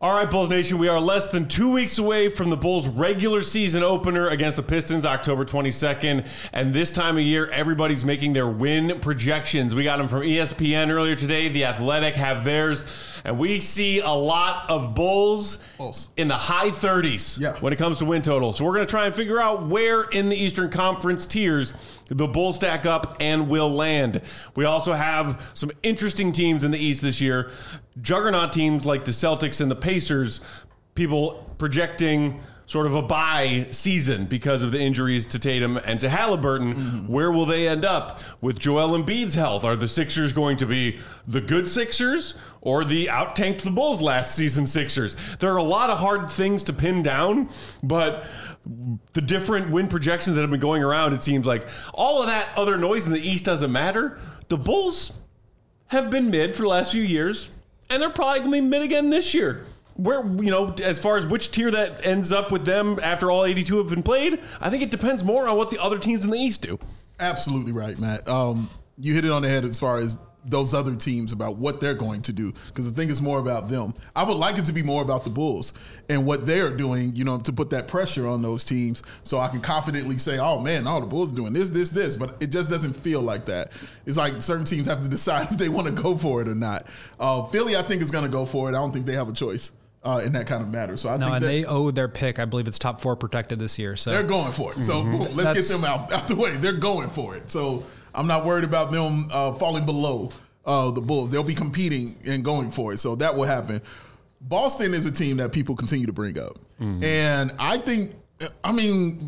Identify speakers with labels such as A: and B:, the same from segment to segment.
A: All right, Bulls Nation, we are less than 2 weeks away from the Bulls' regular season opener against the Pistons, October 22nd. And this time of year, everybody's making their win projections. We got them from ESPN earlier today. The Athletic have theirs. And we see a lot of Bulls in the high 30s when it comes to win total. So we're going to try and figure out where in the Eastern Conference tiers the Bulls stack up and will land. We also have some interesting teams in the East this year. Juggernaut teams like the Celtics and the Pacers, people projecting sort of a bye season because of the injuries to Tatum and to Halliburton. Mm-hmm. Where will they end up with Joel Embiid's health? Are the Sixers going to be the good Sixers or the out-tanked the Bulls last season Sixers? There are a lot of hard things to pin down, but the different win projections that have been going around, it seems like all of that other noise in the East doesn't matter. The Bulls have been mid for the last few years, and they're probably going to be mid again this year. Where, as far as which tier that ends up with them after all 82 have been played, I think it depends more on what the other teams in the East do.
B: Absolutely right, Matt. You hit it on the head as far as those other teams about what they're going to do, because I think it's more about them. I would like it to be more about the Bulls and what they're doing, to put that pressure on those teams so I can confidently say, oh, man, the Bulls are doing this. But it just doesn't feel like that. It's like certain teams have to decide if they want to go for it or not. Philly, I think, is going to go for it. I don't think they have a choice in that kind of matter. So I think
C: they owe their pick. I believe it's top 4 protected this year. So
B: they're going for it. So let's get them out the way. They're going for it. So I'm not worried about them falling below the Bulls. They'll be competing and going for it. So that will happen. Boston is a team that people continue to bring up. Mm-hmm. And I think, you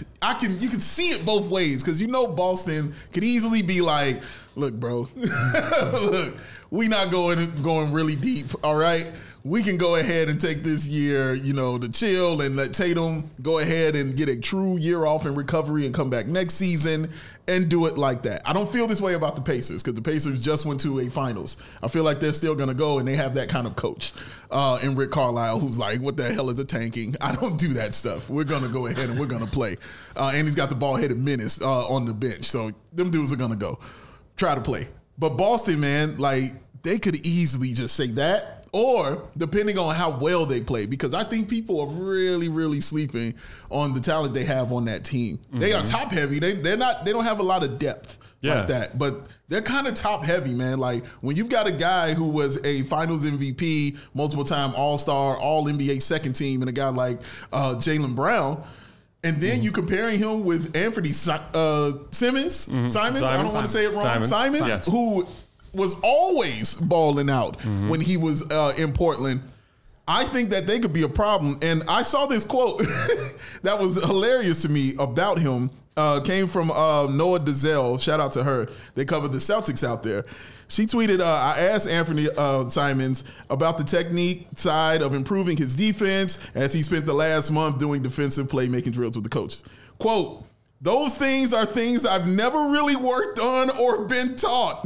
B: can see it both ways, because Boston could easily be like, look, bro, look, we not going really deep, all right? We can go ahead and take this year, to chill and let Tatum go ahead and get a true year off in recovery and come back next season and do it like that. I don't feel this way about the Pacers, because the Pacers just went to a finals. I feel like they're still going to go, and they have that kind of coach in Rick Carlisle, who's like, what the hell is a tanking? I don't do that stuff. We're going to go ahead and we're going to play. And he's got the ball-headed menace on the bench. So them dudes are going to go try to play. But Boston, man, they could easily just say that. Or depending on how well they play, because I think people are really, really sleeping on the talent they have on that team. Mm-hmm. They are top heavy. They don't have a lot of depth like that, but they're kind of top heavy, man. Like when you've got a guy who was a Finals MVP, multiple time All-Star, All NBA second team, and a guy like Jaylen Brown. And then you comparing him with Anthony Simons. I don't want to say it wrong. Simons, who was always balling out when he was in Portland. I think that they could be a problem. And I saw this quote that was hilarious to me about him. Came from Noah Dazelle. Shout out to her. They cover the Celtics out there. She tweeted, I asked Anthony Simons about the technique side of improving his defense as he spent the last month doing defensive playmaking drills with the coaches. Quote, those things are things I've never really worked on or been taught.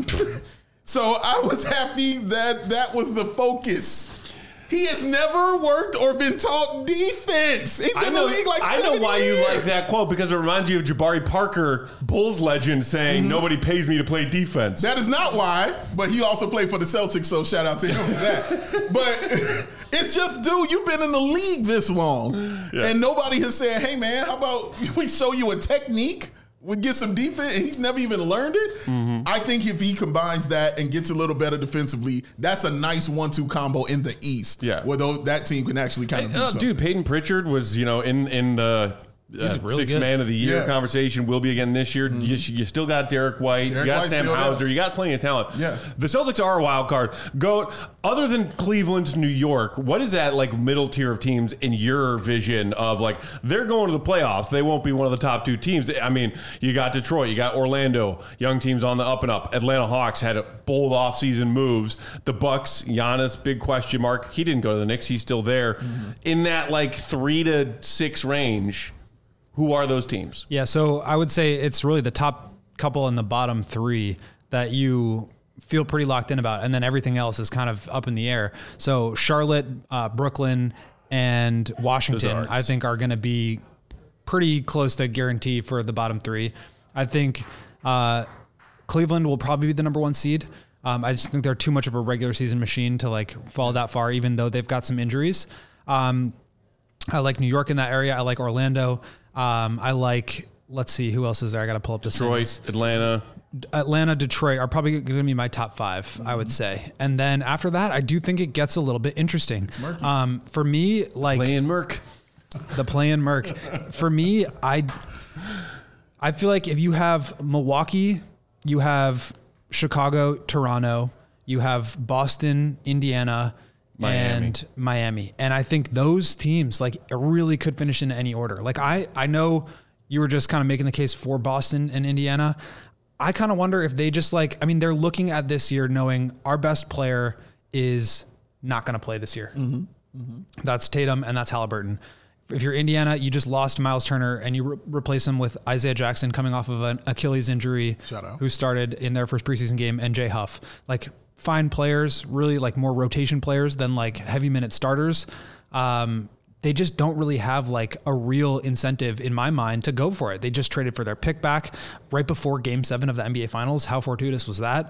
B: So I was happy that was the focus. He has never worked or been taught defense. He's been in the league like 7 years. I know why you like
A: that quote, because it reminds you of Jabari Parker, Bulls legend, saying, nobody pays me to play defense.
B: That is not why, but he also played for the Celtics, so shout out to him for that. But it's just, dude, you've been in the league this long, and nobody has said, hey, man, how about we show you a technique? Would get some defense, and he's never even learned it. Mm-hmm. I think if he combines that and gets a little better defensively, that's a nice 1-2 combo in the East. Yeah, where that team can actually kind of do something.
A: Dude, Peyton Pritchard was, in the really sixth man of the year conversation. Will be again this year. Mm-hmm. You still got Derek White. You got Sam Hauser. You got plenty of talent. Yeah. The Celtics are a wild card. Goat, other than Cleveland, New York, what is that middle tier of teams in your vision of they're going to the playoffs? They won't be one of the top 2 teams. I mean, you got Detroit. You got Orlando. Young teams on the up and up. Atlanta Hawks had bold offseason moves. The Bucks, Giannis, big question mark. He didn't go to the Knicks. He's still there. Mm-hmm. In that 3 to 6 range, who are those teams? Yeah, so I would say it's really the top couple and the bottom 3 that you feel pretty locked in about, and then everything else is kind of up in the air. So Charlotte, Brooklyn, and Washington, I think, are going to be pretty close to guarantee for the bottom 3. I think Cleveland will probably be the number 1 seed.
C: I just think they're too much of a regular season machine to like fall that far, even though they've got some injuries. I like New York in that area. I like Orlando. I like, let's see, who else is there? I got to pull up the
A: Detroit, Atlanta,
C: Detroit are probably going to be my top 5, I would say. And then after that, I do think it gets a little bit interesting. For me, like
A: play-in Merc.
C: The play-in Merc. For me, I feel like if you have Milwaukee, you have Chicago, Toronto, you have Boston, Indiana, and Miami. And I think those teams like really could finish in any order. Like I know you were just kind of making the case for Boston and Indiana. I kind of wonder if they just like, I mean, they're looking at this year knowing our best player is not going to play this year. That's Tatum and that's Halliburton. If you're Indiana, you just lost Miles Turner and you replace him with Isaiah Jackson coming off of an Achilles injury, who started in their first preseason game, and Jay Huff. Like fine players, really like more rotation players than like heavy minute starters. They just don't really have like a real incentive in my mind to go for it. They just traded for their pick back right before Game 7 of the NBA Finals. How fortuitous was that?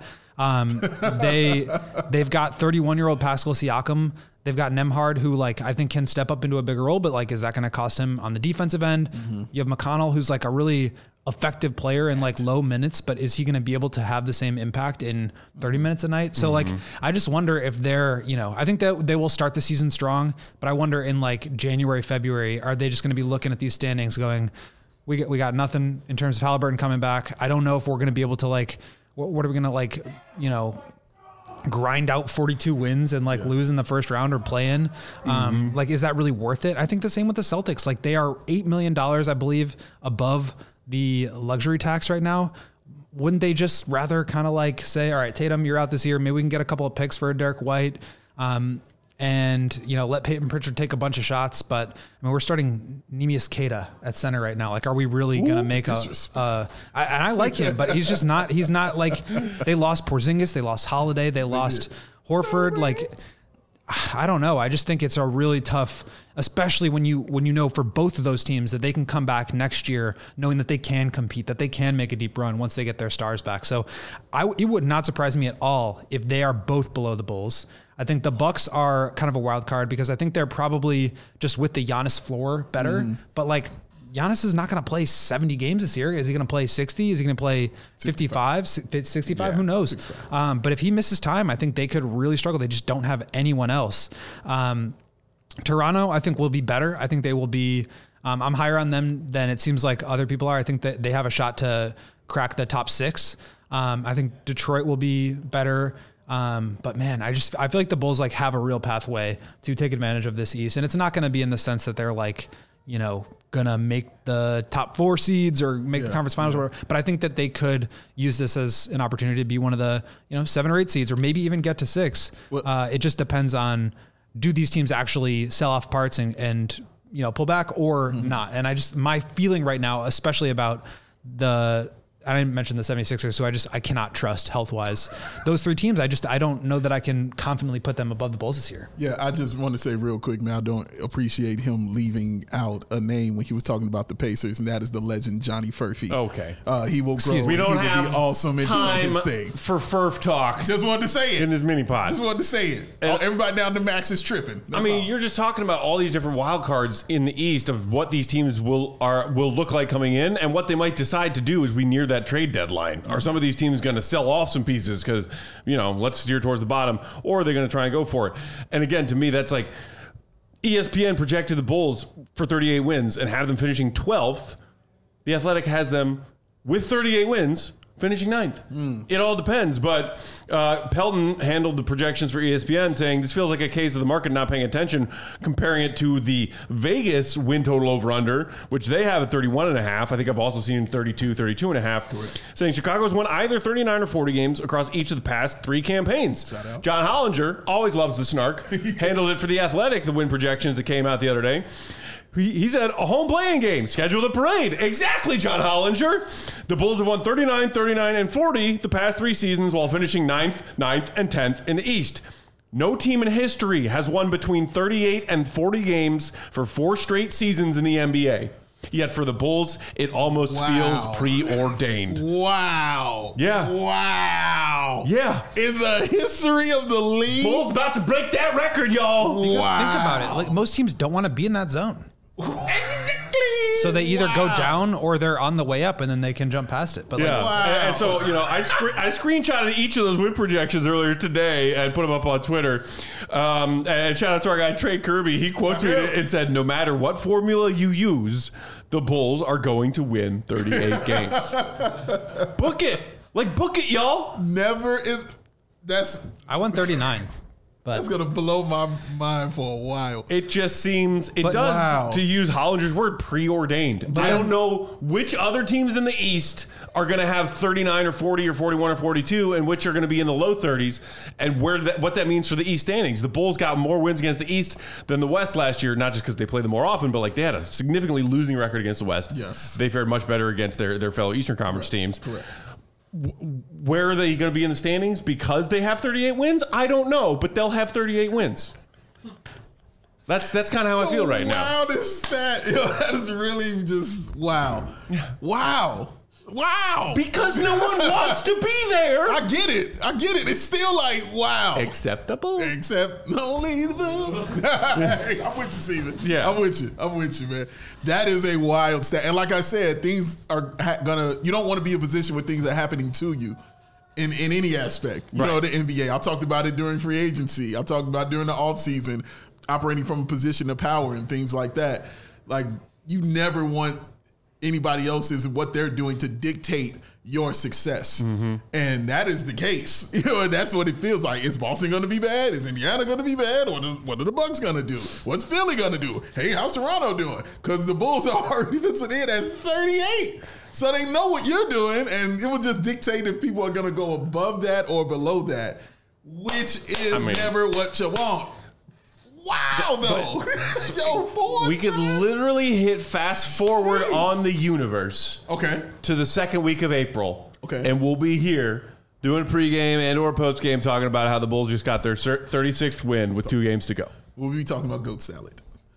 C: They've got 31-year-old Pascal Siakam. They've got Nembhard, who like I think can step up into a bigger role, but like is that going to cost him on the defensive end? You have McConnell, who's like a really effective player in like low minutes, but is he going to be able to have the same impact in 30 minutes a night? So like, I just wonder if they're, you know, I think that they will start the season strong, but I wonder in like January, February, are they just going to be looking at these standings going, we got nothing in terms of Halliburton coming back. I don't know if we're going to be able to like, what are we going to like, you know, grind out 42 wins and like lose in the first round or play in. Like, is that really worth it? I think the same with the Celtics. Like they are $8 million, I believe, above the luxury tax right now. Wouldn't they just rather kind of like say, all right, Tatum, you're out this year. Maybe we can get a couple of picks for Derek White. And, you know, let Peyton Pritchard take a bunch of shots. But I mean, we're starting Neemias Queta at center right now. Like, are we really going to make I like him, but he's not like, they lost Porzingis, they lost Holiday, they lost Horford. Like, I don't know. I just think it's a really tough, especially when you know for both of those teams that they can come back next year knowing that they can compete, that they can make a deep run once they get their stars back. So it would not surprise me at all if they are both below the Bulls. I think the Bucks are kind of a wild card because I think they're probably just with the Giannis floor better. But like Giannis is not going to play 70 games this year. Is he going to play 60? Is he going to play 55, 65? Yeah, who knows? But if he misses time, I think they could really struggle. They just don't have anyone else. Toronto, I think, will be better. I think they will be, I'm higher on them than it seems like other people are. I think that they have a shot to crack the top 6. I think Detroit will be better. But man, I feel like the Bulls like have a real pathway to take advantage of this East. And it's not going to be in the sense that they're like, you know, going to make the top 4 seeds or make the conference finals or whatever. But I think that they could use this as an opportunity to be one of the, 7 or 8 seeds or maybe even get to 6. It just depends on, do these teams actually sell off parts and pull back or not? And my feeling right now, especially about I didn't mention the 76ers, so I cannot trust health-wise. Those 3 teams, I don't know that I can confidently put them above the Bulls this year.
B: Yeah, I just want to say real quick, man, I don't appreciate him leaving out a name when he was talking about the Pacers, and that is the legend Johnny Furphy.
A: Okay.
B: He will grow.
A: We don't have
B: be awesome and
A: time
B: do his thing.
A: For Furf talk.
B: Just wanted to say it.
A: In his mini pod.
B: Just wanted to say it. Everybody down to Max is tripping. That's all.
A: You're just talking about all these different wild cards in the East of what these teams will look like coming in and what they might decide to do as we near that trade deadline. Are some of these teams going to sell off some pieces because, let's steer towards the bottom, or are they going to try and go for it? And again, to me, that's like ESPN projected the Bulls for 38 wins and have them finishing 12th. The Athletic has them with 38 wins finishing 9th. It all depends, but Pelton handled the projections for ESPN saying this feels like a case of the market not paying attention, comparing it to the Vegas win total over-under, which they have at 31.5. I think I've also seen 32.5, saying Chicago's won either 39 or 40 games across each of the past 3 campaigns. John Hollinger, always loves the snark, handled it for the Athletic, the win projections that came out the other day. He said a home playing game, scheduled a parade. Exactly, John Hollinger. The Bulls have won 39, 39, and 40 the past 3 seasons while finishing 9th, and 10th in the East. No team in history has won between 38 and 40 games for 4 straight seasons in the NBA. Yet for the Bulls, it almost feels preordained.
B: Wow.
A: Yeah.
B: Wow.
A: Yeah.
B: In the history of the league.
A: Bulls about to break that record, y'all.
C: Because think about it. Like, most teams don't want to be in that zone.
A: Exactly.
C: So they either go down or they're on the way up, and then they can jump past it. But
A: yeah, and so I screenshotted each of those win projections earlier today and put them up on Twitter. And shout out to our guy Trey Kirby. He quote tweeted and said, "No matter what formula you use, the Bulls are going to win 38 games. Book it, book it, y'all.
C: I won 39. But
B: that's gonna blow my mind for a while.
A: It just seems to use Hollinger's word, preordained. I don't know which other teams in the East are going to have 39 or 40 or 41 or 42, and which are going to be in the low 30s, and what that means for the East standings. The Bulls got more wins against the East than the West last year, not just because they played them more often, but they had a significantly losing record against the West.
B: Yes,
A: they fared much better against their fellow Eastern Conference teams.
B: Correct.
A: Where are they going to be in the standings? Because they have 38 wins? I don't know, but they'll have 38 wins. That's kind of how I feel right now.
B: Wow, this stat. That is really just wow. Wow.
A: Because no one wants to be there.
B: I get it. It's still like, wow.
A: Acceptable.
B: Except only the I'm with you, Steven.
A: Yeah.
B: I'm with you, man. That is a wild stat. And like I said, things are you don't want to be in a position where things are happening to you in any aspect. You know, the NBA. I talked about it during free agency. I talked about during the offseason, operating from a position of power and things like that. Like, you never want anybody else's what they're doing to dictate your success. Mm-hmm. And that is the case. And that's what it feels like. Is Boston going to be bad? Is Indiana going to be bad? What are the Bucks going to do? What's Philly going to do? Hey, how's Toronto doing? Because the Bulls are already sitting in at 38. So they know what you're doing, and it will just dictate if people are going to go above that or below that, which is never what you want. Wow, though.
A: We could literally hit fast forward on the universe. To the second week of April. And we'll be here doing pregame and or postgame talking about how the Bulls just got their 36th win with 2 games to go.
B: We'll be talking about goat salad.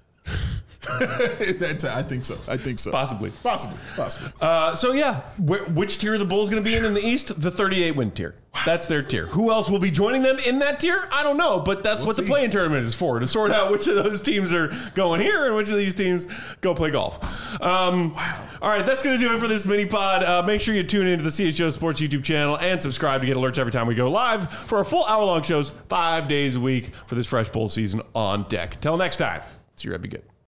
B: I think so.
A: Possibly.
B: So
A: yeah, which tier are the Bulls going to be in the East? The 38 win tier. That's their tier. Who else will be joining them in that tier? I don't know, but that's what the play-in tournament is for, to sort out which of those teams are going here and which of these teams go play golf. All right, that's going to do it for this mini pod. Make sure you tune into the CHGO Sports YouTube channel and subscribe to get alerts every time we go live for our full hour-long shows 5 days a week for this fresh bowl season on deck. Till next time, see you. Be good.